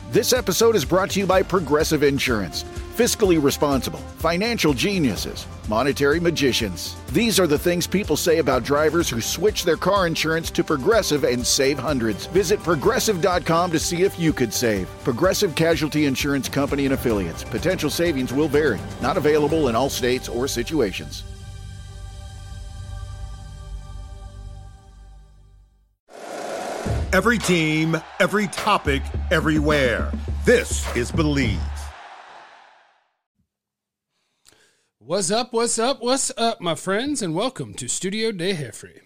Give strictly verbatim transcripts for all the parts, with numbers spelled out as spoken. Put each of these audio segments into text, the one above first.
This episode is brought to you by Progressive Insurance. Fiscally responsible, financial geniuses, monetary magicians. These are the things people say about drivers who switch their car insurance to Progressive and save hundreds. Visit progressive dot com to see if you could save. Progressive Casualty Insurance Company and Affiliates. Potential savings will vary. Not available in all states or situations. Every team, every topic, everywhere. This is Believe. What's up, what's up, what's up, my friends, and welcome to Studio de Jeffrey.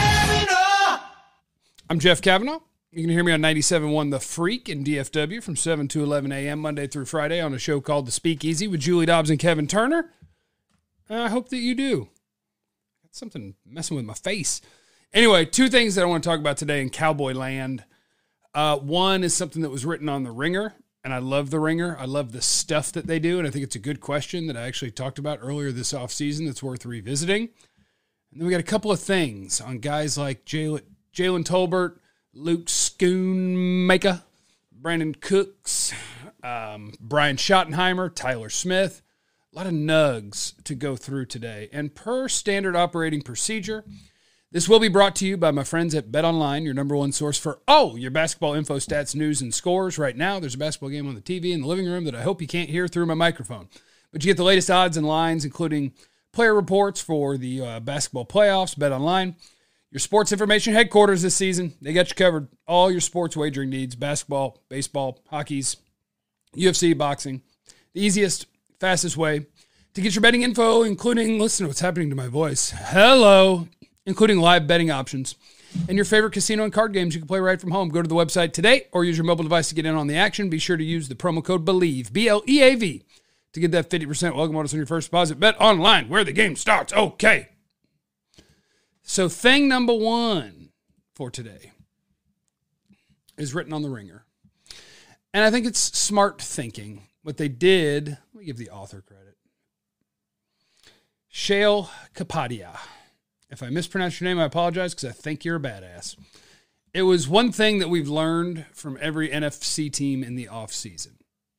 I'm Jeff Kavanaugh. You can hear me on ninety-seven point one The Freak in D F W from seven to eleven a.m. Monday through Friday on a show called The Speakeasy with Julie Dobbs and Kevin Turner. I hope that you do. Got something messing with my face. Anyway, two things that I want to talk about today in Cowboy Land. Uh, one is something that was written on The Ringer, and I love The Ringer. I love the stuff that they do, and I think it's a good question that I actually talked about earlier this offseason that's worth revisiting. And then we got a couple of things on guys like Jalen Jalen Tolbert, Luke Schoonmaker, Brandon Cooks, um, Brian Schottenheimer, Tyler Smith. A lot of nugs to go through today. And per standard operating procedure, this will be brought to you by my friends at BetOnline, your number one source for all your basketball info, stats, news, and scores. Right now, there's a basketball game on the T V in the living room that I hope you can't hear through my microphone. But you get the latest odds and lines, including player reports for the uh, basketball playoffs. BetOnline, your sports information headquarters this season. They got you covered. All your sports wagering needs, basketball, baseball, hockey's, U F C, boxing. The easiest, fastest way to get your betting info, including, listen to what's happening to my voice. Hello. Including live betting options and your favorite casino and card games you can play right from home. Go to the website today or use your mobile device to get in on the action. Be sure to use the promo code BELIEVE, B L E A V, to get that fifty percent welcome bonus on your first deposit. Bet online where the game starts. Okay. So thing number one for today is written on The Ringer. And I think it's smart thinking. What they did, let me give the author credit. Shail Kapadia. If I mispronounce your name, I apologize because I think you're a badass. It was one thing that we've learned from every N F C team in the offseason.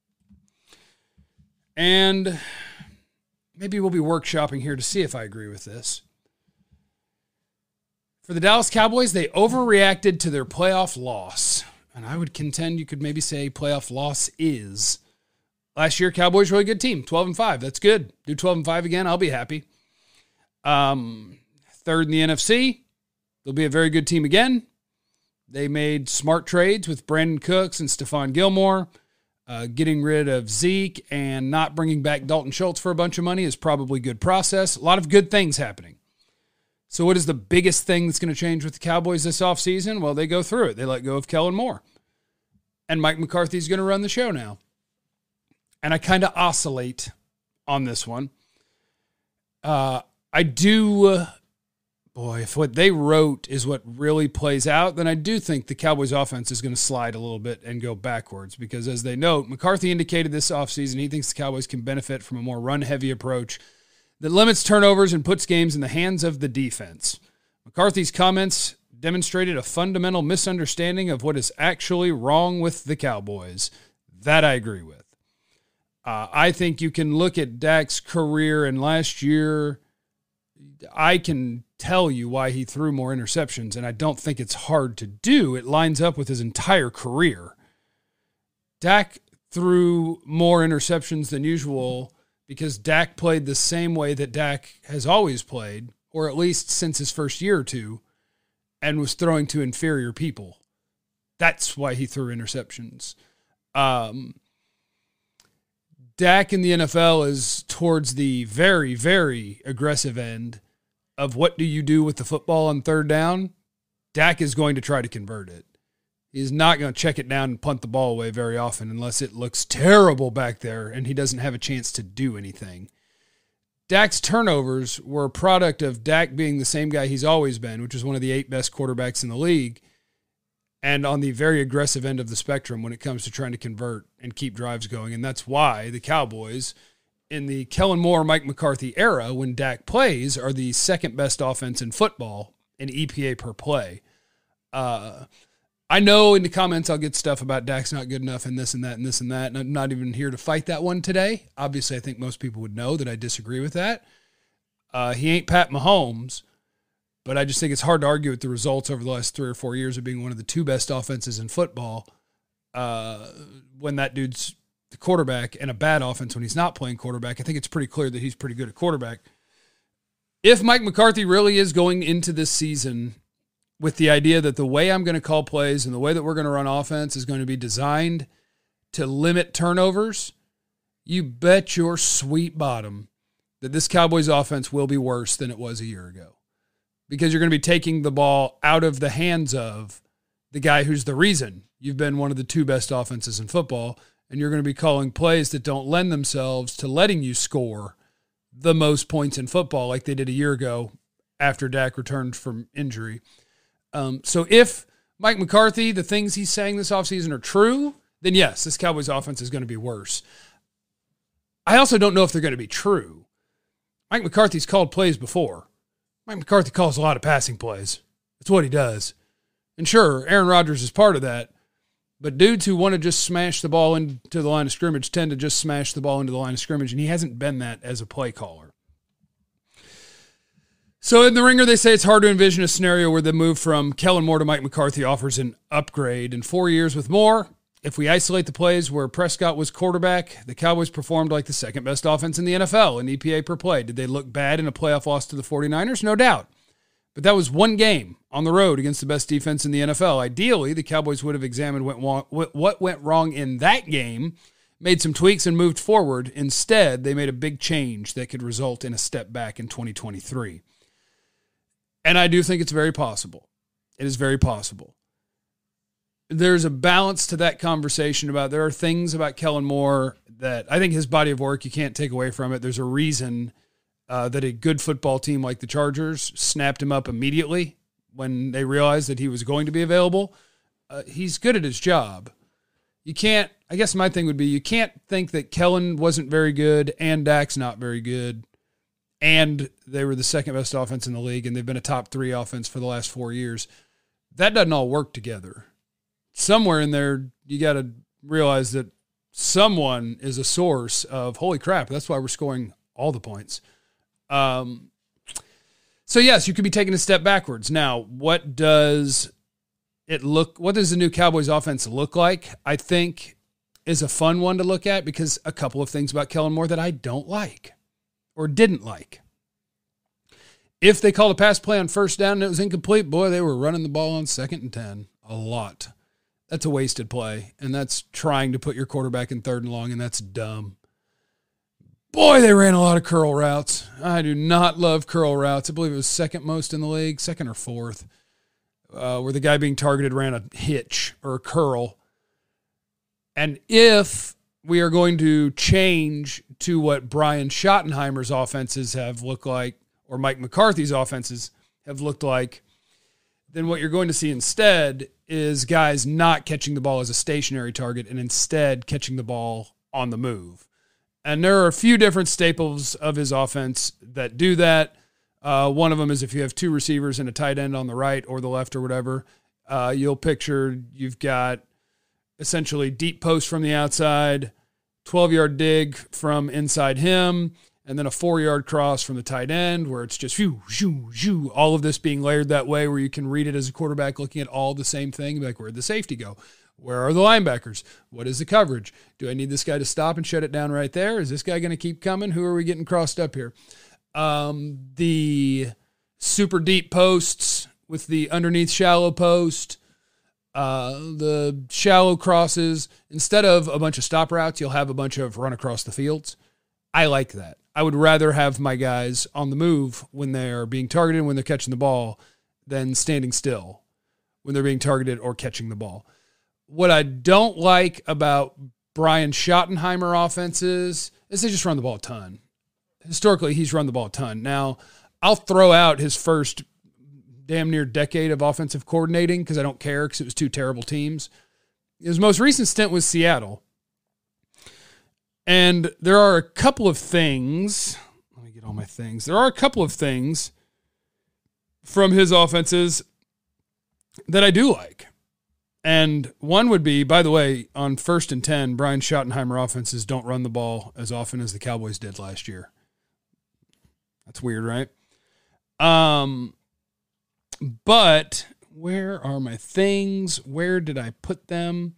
And maybe we'll be workshopping here to see if I agree with this. For the Dallas Cowboys, they overreacted to their playoff loss. And I would contend you could maybe say playoff loss is. Last year, Cowboys really good team, twelve and five. That's good. Do twelve and five again, I'll be happy. Um... Third in the N F C. They'll be a very good team again. They made smart trades with Brandon Cooks and Stephon Gilmore. Uh, getting rid of Zeke and not bringing back Dalton Schultz for a bunch of money is probably a good process. A lot of good things happening. So what is the biggest thing that's going to change with the Cowboys this offseason? Well, they go through it. They let go of Kellen Moore. And Mike McCarthy's going to run the show now. And I kind of oscillate on this one. Uh, I do... Uh, Boy, if what they wrote is what really plays out, then I do think the Cowboys offense is going to slide a little bit and go backwards because, as they note, McCarthy indicated this offseason he thinks the Cowboys can benefit from a more run-heavy approach that limits turnovers and puts games in the hands of the defense. McCarthy's comments demonstrated a fundamental misunderstanding of what is actually wrong with the Cowboys. That I agree with. Uh, I think you can look at Dak's career, and last year I can tell you why he threw more interceptions, and I don't think it's hard to do. It lines up with his entire career. Dak threw more interceptions than usual because Dak played the same way that Dak has always played, or at least since his first year or two, and was throwing to inferior people. That's why he threw interceptions. Um, Dak in the N F L is towards the very, very aggressive end of what do you do with the football on third down. Dak is going to try to convert it. He's not going to check it down and punt the ball away very often unless it looks terrible back there and he doesn't have a chance to do anything. Dak's turnovers were a product of Dak being the same guy he's always been, which is one of the eight best quarterbacks in the league, and on the very aggressive end of the spectrum when it comes to trying to convert and keep drives going. And that's why the Cowboys, in the Kellen Moore, Mike McCarthy era, when Dak plays, are the second best offense in football in E P A per play. Uh, I know in the comments I'll get stuff about Dak's not good enough and this and that and this and that, and I'm not even here to fight that one today. Obviously, I think most people would know that I disagree with that. Uh, he ain't Pat Mahomes, but I just think it's hard to argue with the results over the last three or four years of being one of the two best offenses in football uh, when that dude's the quarterback, and a bad offense when he's not playing quarterback. I think it's pretty clear that he's pretty good at quarterback. If Mike McCarthy really is going into this season with the idea that the way I'm going to call plays and the way that we're going to run offense is going to be designed to limit turnovers, you bet your sweet bottom that this Cowboys offense will be worse than it was a year ago. Because you're going to be taking the ball out of the hands of the guy who's the reason you've been one of the two best offenses in football, and you're going to be calling plays that don't lend themselves to letting you score the most points in football like they did a year ago after Dak returned from injury. Um, so if Mike McCarthy, the things he's saying this offseason are true, then yes, this Cowboys offense is going to be worse. I also don't know if they're going to be true. Mike McCarthy's called plays before. Mike McCarthy calls a lot of passing plays. That's what he does. And sure, Aaron Rodgers is part of that, but dudes who want to just smash the ball into the line of scrimmage tend to just smash the ball into the line of scrimmage, and he hasn't been that as a play caller. So in the Ringer, they say it's hard to envision a scenario where the move from Kellen Moore to Mike McCarthy offers an upgrade. In four years with Moore, if we isolate the plays where Prescott was quarterback, the Cowboys performed like the second best offense in the N F L in E P A per play. Did they look bad in a playoff loss to the 49ers? No doubt. But that was one game on the road against the best defense in the N F L. Ideally, the Cowboys would have examined what went wrong in that game, made some tweaks, and moved forward. Instead, they made a big change that could result in a step back in twenty twenty-three. And I do think it's very possible. It is very possible. There's a balance to that conversation about there are things about Kellen Moore that I think his body of work, you can't take away from it. There's a reason uh, that a good football team like the Chargers snapped him up immediately when they realized that he was going to be available. Uh, he's good at his job. You can't, I guess my thing would be, you can't think that Kellen wasn't very good and Dak's not very good, and they were the second best offense in the league, and they've been a top three offense for the last four years. That doesn't all work together. Somewhere in there, you got to realize that someone is a source of, holy crap, that's why we're scoring all the points. Um, so, yes, you could be taking a step backwards. Now, what does it look, what does the new Cowboys offense look like? I think is a fun one to look at because a couple of things about Kellen Moore that I don't like or didn't like. If they called a pass play on first down and it was incomplete, boy, they were running the ball on second and ten a lot. That's a wasted play, and that's trying to put your quarterback in third and long, and that's dumb. Boy, they ran a lot of curl routes. I do not love curl routes. I believe it was second most in the league, second or fourth, uh, where the guy being targeted ran a hitch or a curl. And if we are going to change to what Brian Schottenheimer's offenses have looked like, or Mike McCarthy's offenses have looked like, then what you're going to see instead is guys not catching the ball as a stationary target and instead catching the ball on the move. And there are a few different staples of his offense that do that. Uh, one of them is if you have two receivers and a tight end on the right or the left or whatever, uh, you'll picture you've got essentially deep post from the outside, twelve-yard dig from inside him, and then a four-yard cross from the tight end where it's just shoo, shoo, shoo, all of this being layered that way where you can read it as a quarterback looking at all the same thing, like where'd the safety go? Where are the linebackers? What is the coverage? Do I need this guy to stop and shut it down right there? Is this guy going to keep coming? Who are we getting crossed up here? Um, the super deep posts with the underneath shallow post, uh, the shallow crosses. Instead of a bunch of stop routes, you'll have a bunch of run across the fields. I like that. I would rather have my guys on the move when they're being targeted, when they're catching the ball, than standing still when they're being targeted or catching the ball. What I don't like about Brian Schottenheimer offenses is they just run the ball a ton. Historically, he's run the ball a ton. Now, I'll throw out his first damn near decade of offensive coordinating because I don't care because it was two terrible teams. His most recent stint was Seattle. And there are a couple of things, let me get all my things. There are a couple of things from his offenses that I do like. And one would be, by the way, on first and ten, Brian Schottenheimer offenses don't run the ball as often as the Cowboys did last year. That's weird, right? Um, but where are my things? Where did I put them?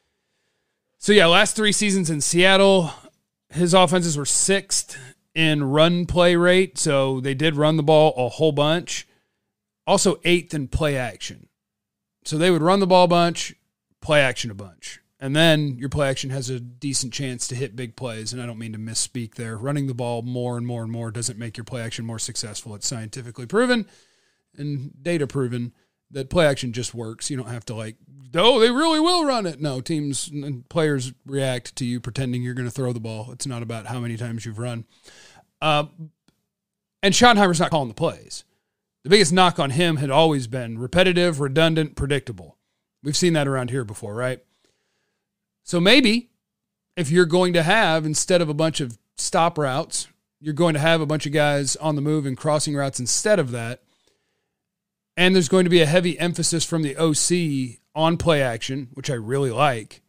So, yeah, last three seasons in Seattle, his offenses were sixth in run play rate, so they did run the ball a whole bunch. Also eighth in play action. So they would run the ball a bunch, play action a bunch. And then your play action has a decent chance to hit big plays, and I don't mean to misspeak there. Running the ball more and more and more doesn't make your play action more successful. It's scientifically proven and data proven that play action just works. You don't have to like, oh, they really will run it. No, teams and players react to you pretending you're going to throw the ball. It's not about how many times you've run. Uh, and Schottenheimer's not calling the plays. The biggest knock on him had always been repetitive, redundant, predictable. We've seen that around here before, right? So maybe if you're going to have, instead of a bunch of stop routes, you're going to have a bunch of guys on the move and crossing routes instead of that. And there's going to be a heavy emphasis from the O C on play action, which I really like.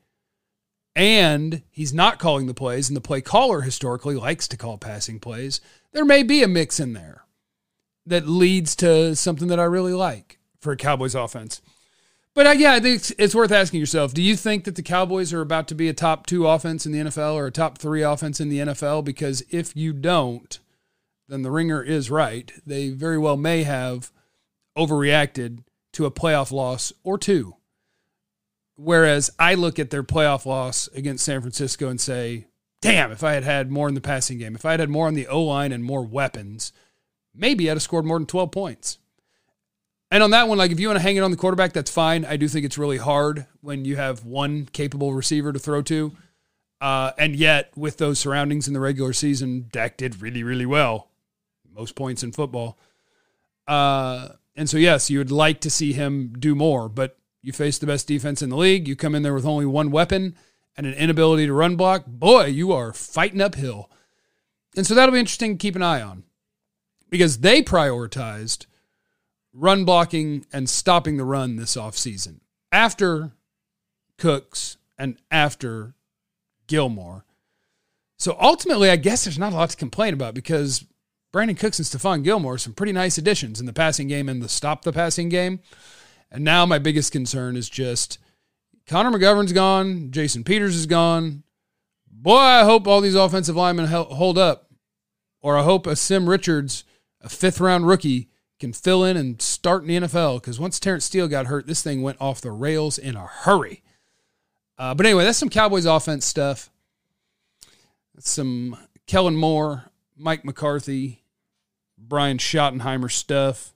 And he's not calling the plays, and the play caller historically likes to call passing plays. There may be a mix in there that leads to something that I really like for a Cowboys offense. But uh, yeah, I think it's, it's worth asking yourself, do you think that the Cowboys are about to be a top two offense in the N F L or a top three offense in the N F L? Because if you don't, then the ringer is right. They very well may have overreacted to a playoff loss or two. Whereas I look at their playoff loss against San Francisco and say, damn, if I had had more in the passing game, if I had had more on the O-line and more weapons, maybe I'd have scored more than twelve points. And on that one, like if you want to hang it on the quarterback, that's fine. I do think it's really hard when you have one capable receiver to throw to. Uh, and yet, with those surroundings in the regular season, Dak did really, really well. Most points in football. Uh, and so, yes, you would like to see him do more, but you face the best defense in the league. You come in there with only one weapon and an inability to run block. Boy, you are fighting uphill. And so that'll be interesting to keep an eye on, because they prioritized run blocking and stopping the run this offseason after Cooks and after Gilmore. So ultimately, I guess there's not a lot to complain about, because Brandon Cooks and Stephon Gilmore are some pretty nice additions in the passing game and the stop the passing game. And now my biggest concern is just Connor McGovern's gone. Jason Peters is gone. Boy, I hope all these offensive linemen hold up. Or I hope a Sim Richards, a fifth-round rookie, can fill in and start in the N F L, because once Terrence Steele got hurt, this thing went off the rails in a hurry. Uh, but anyway, that's some Cowboys offense stuff. That's some Kellen Moore, Mike McCarthy, Brian Schottenheimer stuff.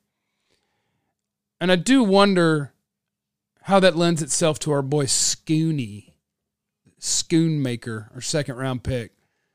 And I do wonder how that lends itself to our boy Scooney, Schoonmaker, our second-round pick.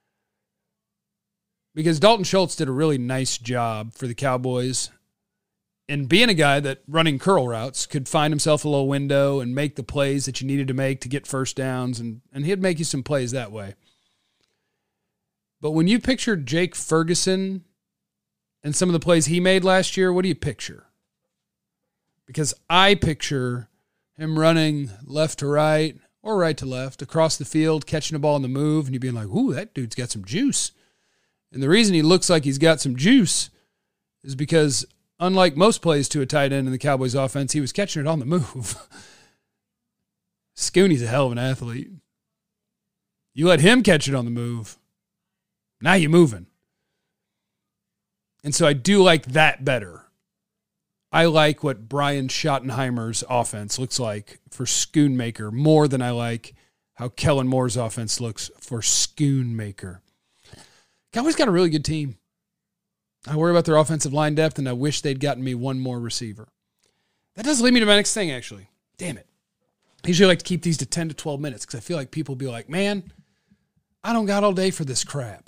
Because Dalton Schultz did a really nice job for the Cowboys in being a guy that, running curl routes, could find himself a little window and make the plays that you needed to make to get first downs, and, and he'd make you some plays that way. But when you picture Jake Ferguson and some of the plays he made last year, what do you picture? Because I picture him running left to right or right to left across the field, catching a ball on the move, and you being like, ooh, that dude's got some juice. And the reason he looks like he's got some juice is because, unlike most plays to a tight end in the Cowboys offense, he was catching it on the move. Scooney's a hell of an athlete. You let him catch it on the move, now you're moving. And so I do like that better. I like what Brian Schottenheimer's offense looks like for Schoonmaker more than I like how Kellen Moore's offense looks for Schoonmaker. Cowboys got a really good team. I worry about their offensive line depth, and I wish they'd gotten me one more receiver. That does lead me to my next thing, actually. Damn it. I usually like to keep these to ten to twelve minutes, because I feel like people will be like, man, I don't got all day for this crap.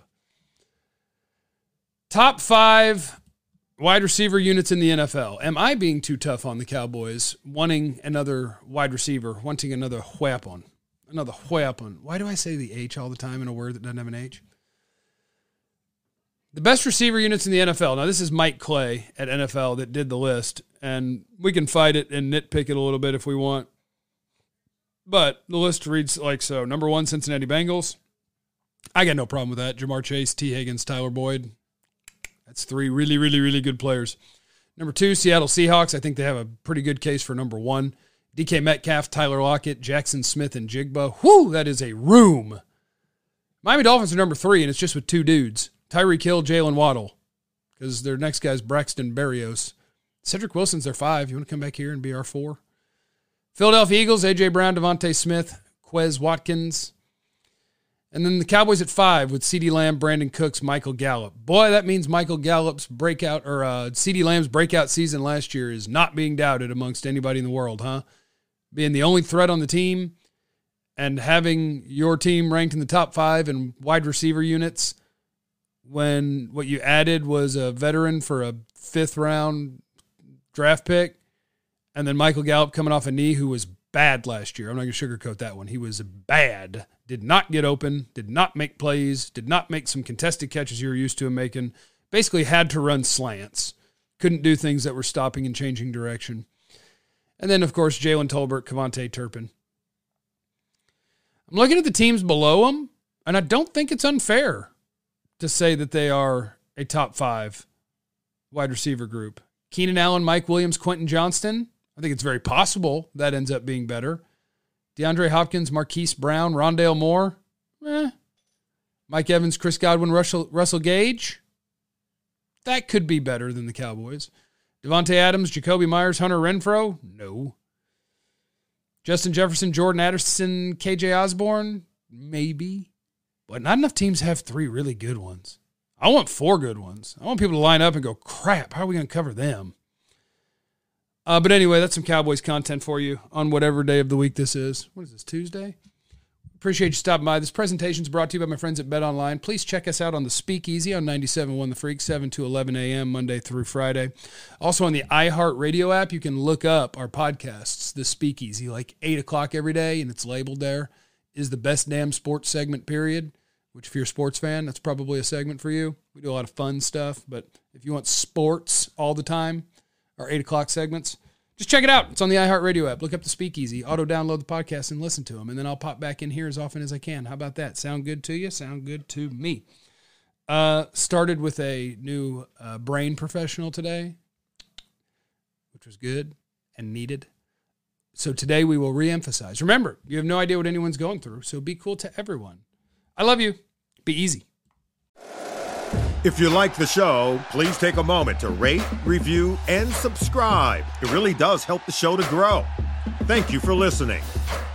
Top five wide receiver units in the N F L. Am I being too tough on the Cowboys, wanting another wide receiver, wanting another weapon? Another weapon. Why do I say the H all the time in a word that doesn't have an H? The best receiver units in the N F L. Now, this is Mike Clay at N F L that did the list, and we can fight it and nitpick it a little bit if we want. But the list reads like so. Number one, Cincinnati Bengals. I got no problem with that. Jamar Chase, T. Higgins, Tyler Boyd. That's three really, really, really good players. Number two, Seattle Seahawks. I think they have a pretty good case for number one. D K Metcalf, Tyler Lockett, Jackson Smith, and Jigba. Whoo, that is a room. Miami Dolphins are number three, and it's just with two dudes. Tyreek Hill, Jalen Waddle, because their next guy's Braxton Berrios. Cedric Wilson's their five. You want to come back here and be our four? Philadelphia Eagles, A J. Brown, Devontae Smith, Quez Watkins. And then the Cowboys at five with CeeDee Lamb, Brandon Cooks, Michael Gallup. Boy, that means Michael Gallup's breakout, or uh, CeeDee Lamb's breakout season last year is not being doubted amongst anybody in the world, huh? Being the only threat on the team and having your team ranked in the top five in wide receiver units when what you added was a veteran for a fifth round draft pick, and then Michael Gallup coming off a knee who was bad last year. I'm not going to sugarcoat that one. He was bad. Did not get open, did not make plays, did not make some contested catches you were used to him making. Basically had to run slants. Couldn't do things that were stopping and changing direction. And then, of course, Jalen Tolbert, Kevontae Turpin. I'm looking at the teams below them, and I don't think it's unfair to say that they are a top five wide receiver group. Keenan Allen, Mike Williams, Quentin Johnston. I think it's very possible that ends up being better. DeAndre Hopkins, Marquise Brown, Rondale Moore. Eh. Mike Evans, Chris Godwin, Russell, Russell Gage. That could be better than the Cowboys. Devontae Adams, Jacoby Myers, Hunter Renfrow. No. Justin Jefferson, Jordan Addison, K J Osborne. Maybe. But not enough teams have three really good ones. I want four good ones. I want people to line up and go, crap, how are we going to cover them? Uh, but anyway, that's some Cowboys content for you on whatever day of the week this is. What is this, Tuesday? Appreciate you stopping by. This presentation is brought to you by my friends at BetOnline. Please check us out on the Speakeasy on ninety-seven point one The Freak, seven to eleven a.m., Monday through Friday. Also on the iHeartRadio app, you can look up our podcasts, the Speakeasy, like eight o'clock every day, and it's labeled there, is the best damn sports segment, period, which if you're a sports fan, that's probably a segment for you. We do a lot of fun stuff, but if you want sports all the time, our eight o'clock segments, just check it out. It's on the iHeartRadio app. Look up the Speakeasy, auto-download the podcast, and listen to them. And then I'll pop back in here as often as I can. How about that? Sound good to you? Sound good to me. Uh, started with a new uh, brain professional today, which was good and needed. So today we will reemphasize. Remember, you have no idea what anyone's going through, so be cool to everyone. I love you. Be easy. If you like the show, please take a moment to rate, review, and subscribe. It really does help the show to grow. Thank you for listening.